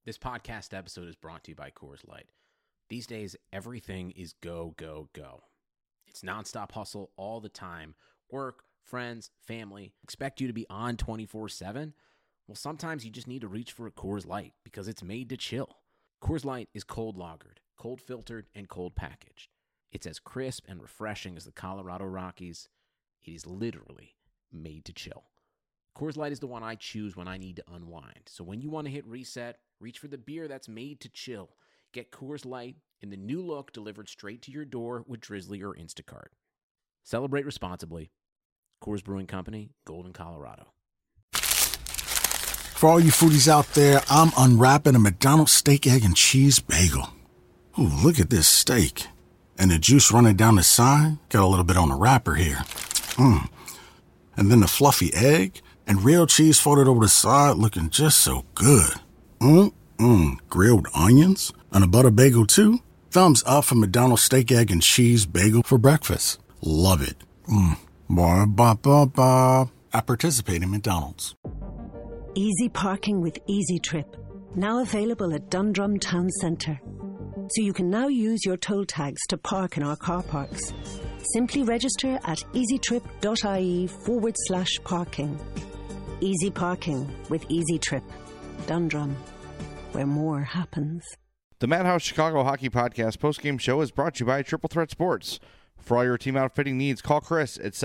This podcast episode is brought to you by Coors Light. These days, everything is go, go, go. It's nonstop hustle all the time. Work, friends, family, expect you to be on 24/7. Well, sometimes you just need to reach for a Coors Light because it's made to chill. Coors Light is cold lagered, cold filtered, and cold packaged. It's as crisp and refreshing as the Colorado Rockies. It is literally made to chill. Coors Light is the one I choose when I need to unwind. So when you want to hit reset, reach for the beer that's made to chill. Get Coors Light in the new look delivered straight to your door with Drizzly or Instacart. Celebrate responsibly. Coors Brewing Company, Golden, Colorado. For all you foodies out there, I'm unwrapping a McDonald's steak, egg, and cheese bagel. Ooh, look at this steak. And the juice running down the side. Got a little bit on the wrapper here. And then the fluffy egg and real cheese folded over the side looking just so good. Grilled onions and a butter bagel too. Thumbs up for McDonald's steak, egg, and cheese bagel for breakfast. Love it. Ba-ba-ba-ba. I participate in McDonald's. Easy parking with Easy Trip. Now available at Dundrum Town Centre. So you can now use your toll tags to park in our car parks. Simply register at easytrip.ie/parking. Easy parking with Easy Trip. Dundrum, where more happens. The Madhouse Chicago Hockey Podcast postgame show is brought to you by Triple Threat Sports. For all your team outfitting needs, call Chris at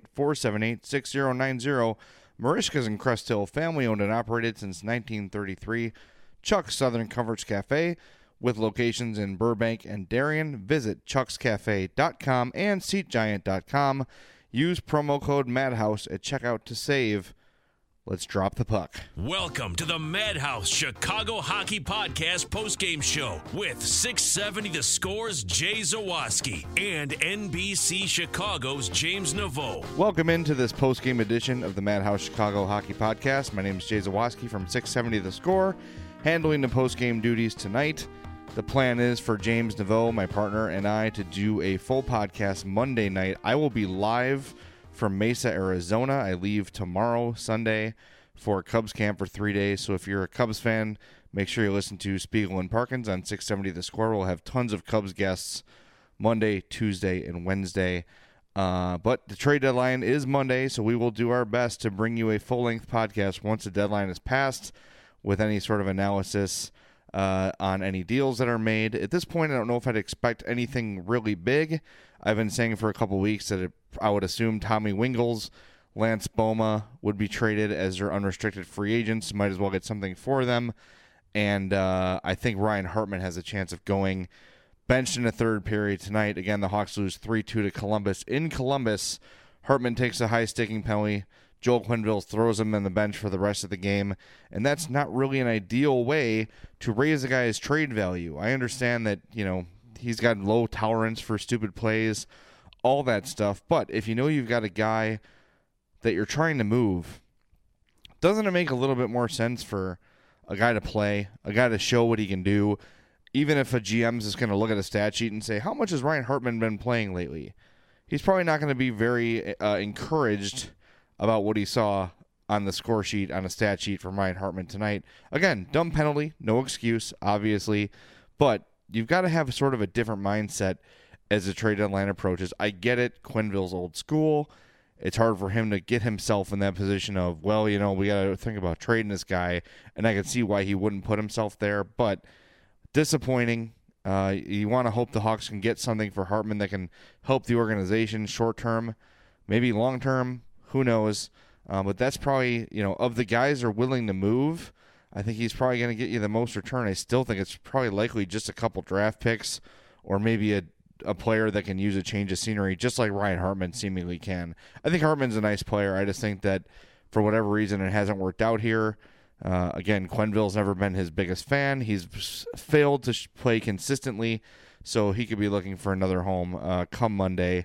708-478-6090. Marishka's in Crest Hill, family-owned and operated since 1933. Chuck's Southern Comforts Cafe, with locations in Burbank and Darien. Visit chuckscafe.com and seatgiant.com. Use promo code MADHOUSE at checkout to save. Let's drop the puck. Welcome to the Madhouse Chicago Hockey Podcast postgame show with 670 The Score's Jay Zawaski and NBC Chicago's James Naveau. Welcome into this postgame edition of the Madhouse Chicago Hockey Podcast. My name is Jay Zawaski from 670 The Score, handling the postgame duties tonight. The plan is for James Naveau, my partner, and I to do a full podcast Monday night. I will be live from Mesa, Arizona. I leave tomorrow, Sunday, for Cubs camp for 3 days. So if you're a Cubs fan, make sure you listen to Spiegel and Parkins on 670 The Score. We'll have tons of Cubs guests Monday, Tuesday, and Wednesday. But the trade deadline is Monday, so we will do our best to bring you a full-length podcast once the deadline is passed with any sort of analysis on any deals that are made. At this point, I don't know if I'd expect anything really big. I've been saying for a couple weeks that I would assume Tommy Wingels, Lance Boma would be traded as their unrestricted free agents. Might as well get something for them. And I think Ryan Hartman has a chance of going benched in the third period tonight. Again, the Hawks lose 3-2 to Columbus. In Columbus, Hartman takes a high-sticking penalty. Joel Quenneville throws him on the bench for the rest of the game, and that's not really an ideal way to raise a guy's trade value. I understand that, he's got low tolerance for stupid plays, all that stuff, but if you know you've got a guy that you're trying to move, doesn't it make a little bit more sense for a guy to play, a guy to show what he can do, even if a GM's just going to look at a stat sheet and say, how much has Ryan Hartman been playing lately? He's probably not going to be very encouraged about what he saw on the score sheet, on a stat sheet from Ryan Hartman tonight. Again, dumb penalty, no excuse, obviously, but you've got to have sort of a different mindset as the trade deadline approaches. I get it, Quenneville's old school. It's hard for him to get himself in that position of, we got to think about trading this guy, and I can see why he wouldn't put himself there, but disappointing. You want to hope the Hawks can get something for Hartman that can help the organization short-term, maybe long-term. Who knows? But that's probably, of the guys who are willing to move, I think he's probably going to get you the most return. I still think it's probably likely just a couple draft picks or maybe a player that can use a change of scenery, just like Ryan Hartman seemingly can. I think Hartman's a nice player. I just think that for whatever reason it hasn't worked out here. Again, Quenneville's never been his biggest fan. He's failed to play consistently, so he could be looking for another home come Monday.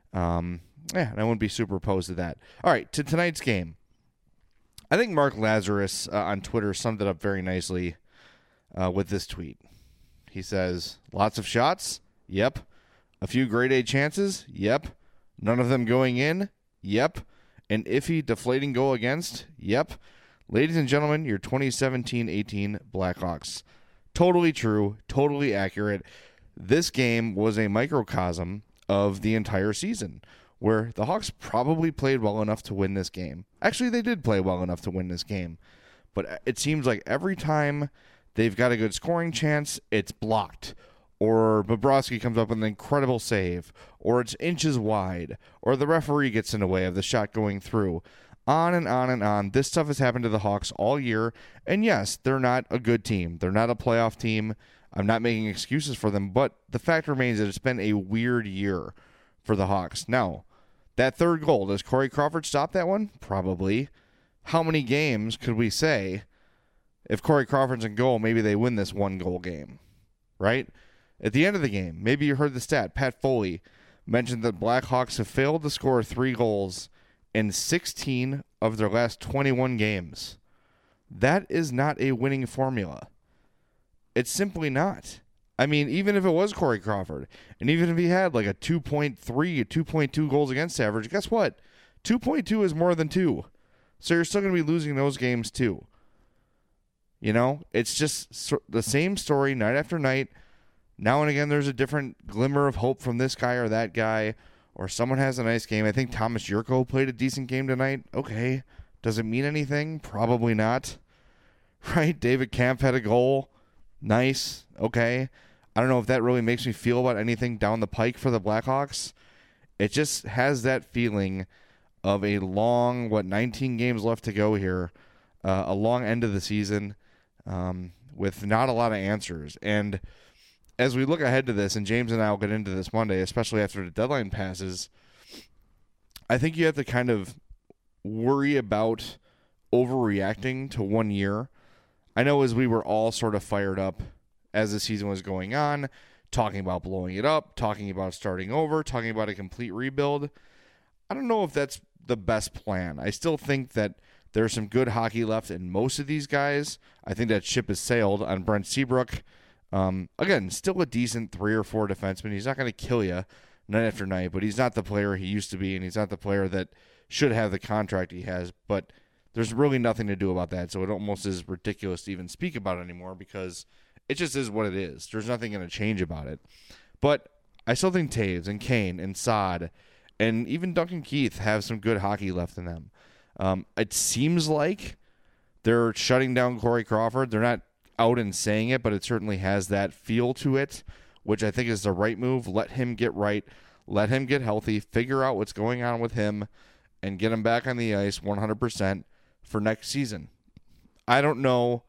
And I wouldn't be super opposed to that. All right, to tonight's game. I think Mark Lazarus on Twitter summed it up very nicely with this tweet. He says, lots of shots? Yep. A few grade A chances? Yep. None of them going in? Yep. An iffy, deflating goal against? Yep. Ladies and gentlemen, your 2017-18 Blackhawks. Totally true, totally accurate. This game was a microcosm of the entire season, where the Hawks probably played well enough to win this game. Actually, they did play well enough to win this game. But it seems like every time they've got a good scoring chance, it's blocked. Or Bobrovsky comes up with an incredible save. Or it's inches wide. Or the referee gets in the way of the shot going through. On and on and on. This stuff has happened to the Hawks all year. And yes, they're not a good team. They're not a playoff team. I'm not making excuses for them. But the fact remains that it's been a weird year for the Hawks. Now, that third goal, does Corey Crawford stop that one? Probably. How many games could we say if Corey Crawford's in goal, maybe they win this one-goal game, right? At the end of the game, maybe you heard the stat, Pat Foley mentioned that Blackhawks have failed to score 3 goals in 16 of their last 21 games. That is not a winning formula. It's simply not. I mean, even if it was Corey Crawford, and even if he had like a 2.3, a 2.2 goals against average, guess what? 2.2 is more than 2. So you're still going to be losing those games too. You know, it's just the same story night after night. Now and again, there's a different glimmer of hope from this guy or that guy, or someone has a nice game. I think Thomas Jurko played a decent game tonight. Okay. Does it mean anything? Probably not. Right? David Kampf had a goal. Nice. Okay. I don't know if that really makes me feel about anything down the pike for the Blackhawks. It just has that feeling of a long, 19 games left to go here, a long end of the season with not a lot of answers. And as we look ahead to this, and James and I will get into this Monday, especially after the deadline passes, I think you have to kind of worry about overreacting to 1 year. I know as we were all sort of fired up as the season was going on, talking about blowing it up, talking about starting over, talking about a complete rebuild, I don't know if that's the best plan. I still think that there's some good hockey left in most of these guys. I think that ship has sailed on Brent Seabrook. Again, still a decent 3 or 4 defenseman. He's not going to kill you night after night, but he's not the player he used to be, and he's not the player that should have the contract he has. But there's really nothing to do about that, so it almost is ridiculous to even speak about it anymore because it just is what it is. There's nothing going to change about it. But I still think Taves and Kane and Saad and even Duncan Keith have some good hockey left in them. It seems like they're shutting down Corey Crawford. They're not out and saying it, but it certainly has that feel to it, which I think is the right move. Let him get right. Let him get healthy. Figure out what's going on with him and get him back on the ice 100% for next season. I don't know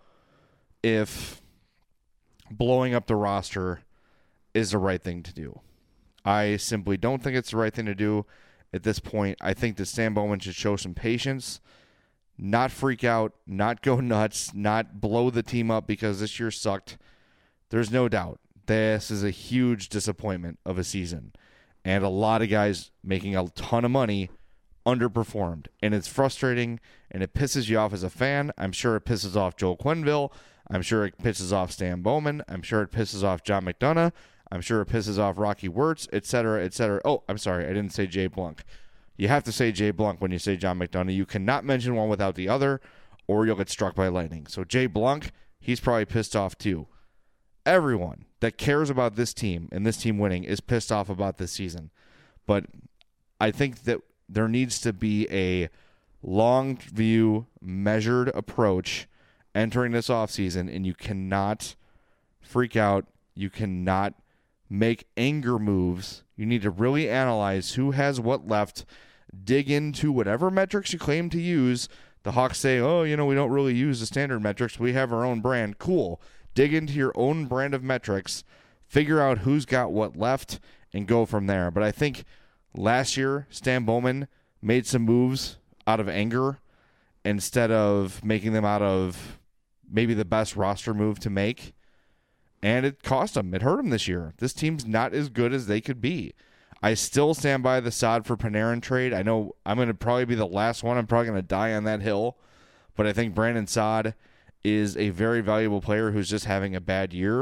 if blowing up the roster is the right thing to do. I simply don't think it's the right thing to do at this point. I think that Stan Bowman should show some patience, not freak out, not go nuts, not blow the team up because this year sucked. There's no doubt this is a huge disappointment of a season. And a lot of guys making a ton of money underperformed. And it's frustrating, and it pisses you off as a fan. I'm sure it pisses off Joel Quenneville. I'm sure it pisses off Stan Bowman. I'm sure it pisses off John McDonough. I'm sure it pisses off Rocky Wirtz, etc., etc. Oh, I'm sorry. I didn't say Jay Blunk. You have to say Jay Blunk when you say John McDonough. You cannot mention one without the other, or you'll get struck by lightning. So Jay Blunk, he's probably pissed off too. Everyone that cares about this team and this team winning is pissed off about this season. But I think that there needs to be a long view, measured approach entering this offseason, and you cannot freak out. You cannot make anger moves. You need to really analyze who has what left, dig into whatever metrics you claim to use. The Hawks say, oh, we don't really use the standard metrics. We have our own brand. Cool. Dig into your own brand of metrics, figure out who's got what left, and go from there. But I think last year, Stan Bowman made some moves out of anger instead of making them out of maybe the best roster move to make. And it cost him. It hurt him this year. This team's not as good as they could be. I still stand by the Saad for Panarin trade. I know I'm going to probably be the last one. I'm probably going to die on that hill. But I think Brandon Saad is a very valuable player who's just having a bad year.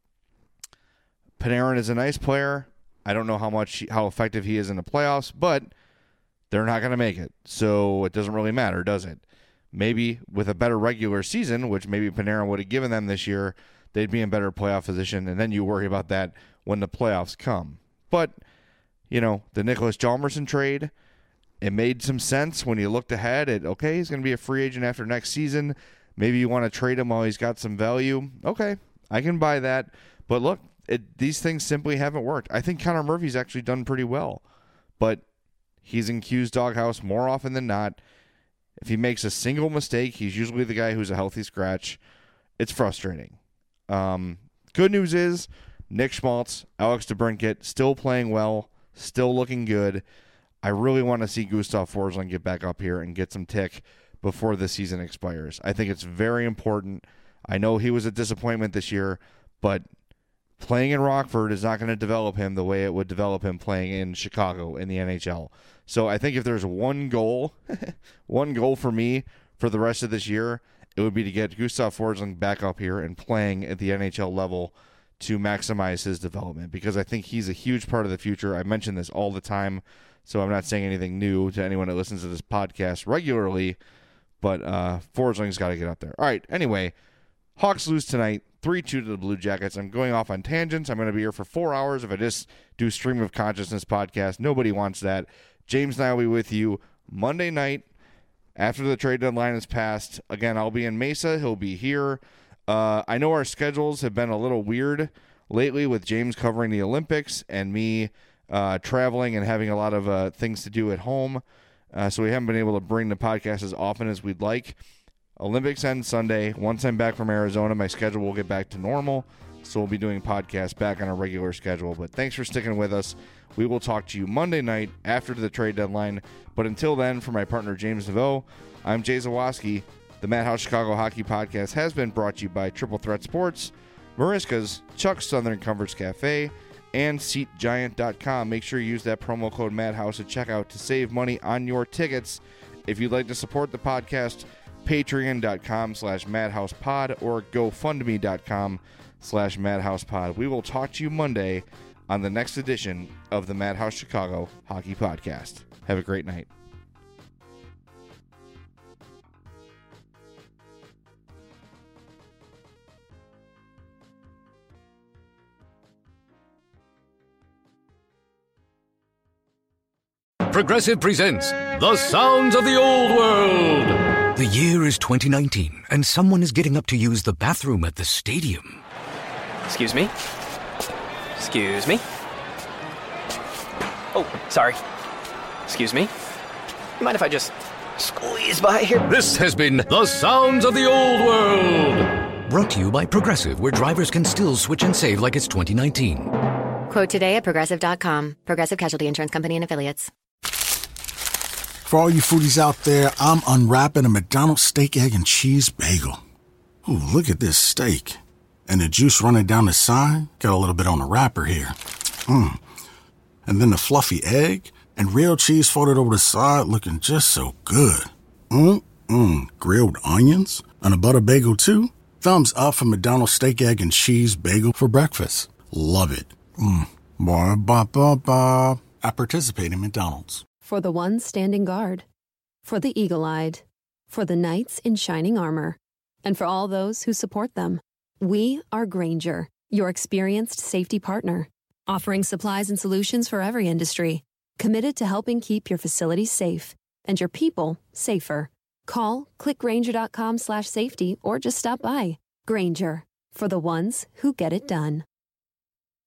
Panarin is a nice player. I don't know how effective he is in the playoffs, but they're not going to make it. So it doesn't really matter, does it? maybe with a better regular season, which maybe Panarin would have given them this year, they'd be in better playoff position, and then you worry about that when the playoffs come. But, the Nicholas Hjalmarsson trade, it made some sense when you looked ahead at, okay, he's going to be a free agent after next season. Maybe you want to trade him while he's got some value. Okay, I can buy that. But look, these things simply haven't worked. I think Connor Murphy's actually done pretty well, but he's in Q's doghouse more often than not. If he makes a single mistake, he's usually the guy who's a healthy scratch. It's frustrating. Good news is Nick Schmaltz, Alex DeBrincat, still playing well, still looking good. I really want to see Gustav Forsling get back up here and get some tick before the season expires. I think it's very important. I know he was a disappointment this year, but playing in Rockford is not going to develop him the way it would develop him playing in Chicago in the NHL. So I think if there's one goal for me for the rest of this year, it would be to get Gustav Forsling back up here and playing at the NHL level to maximize his development, because I think he's a huge part of the future. I mention this all the time, so I'm not saying anything new to anyone that listens to this podcast regularly, but Forsling's got to get up there. All right, anyway, Hawks lose tonight, 3-2 to the Blue Jackets. I'm going off on tangents. I'm going to be here for 4 hours if I just do Stream of Consciousness podcast. Nobody wants that. James and I will be with you Monday night after the trade deadline is passed. Again, I'll be in Mesa. He'll be here. I know our schedules have been a little weird lately with James covering the Olympics and me traveling and having a lot of things to do at home. So we haven't been able to bring the podcast as often as we'd like. Olympics end Sunday. Once I'm back from Arizona, my schedule will get back to normal. So we'll be doing podcasts back on a regular schedule. But thanks for sticking with us. We will talk to you Monday night after the trade deadline. But until then, for my partner James Neveau, I'm Jay Zawaski. The Madhouse Chicago Hockey Podcast has been brought to you by Triple Threat Sports, Mariska's, Chuck's Southern Comforts Cafe, and SeatGiant.com. Make sure you use that promo code Madhouse at checkout to save money on your tickets. If you'd like to support the podcast, patreon.com/madhousepod or gofundme.com/madhousepod. We will talk to you Monday on the next edition of the Madhouse Chicago Hockey Podcast. Have a great night. Progressive presents The Sounds of the Old World. The year is 2019, and someone is getting up to use the bathroom at the stadium. Excuse me? Excuse me? Oh, sorry. Excuse me? You mind if I just squeeze by here? This has been The Sounds of the Old World. Brought to you by Progressive, where drivers can still switch and save like it's 2019. Quote today at Progressive.com. Progressive Casualty Insurance Company and Affiliates. For all you foodies out there, I'm unwrapping a McDonald's steak, egg, and cheese bagel. Ooh, look at this steak. And the juice running down the side. Got a little bit on the wrapper here. And then the fluffy egg and real cheese folded over the side, looking just so good. Grilled onions and a butter bagel too. Thumbs up for McDonald's steak, egg, and cheese bagel for breakfast. Love it. Ba-ba-ba-ba. I participate in McDonald's. For the ones standing guard, for the eagle-eyed, for the knights in shining armor, and for all those who support them. We are Grainger, your experienced safety partner, offering supplies and solutions for every industry, committed to helping keep your facilities safe and your people safer. Call, clickgrainger.com/safety, or just stop by. Grainger, for the ones who get it done.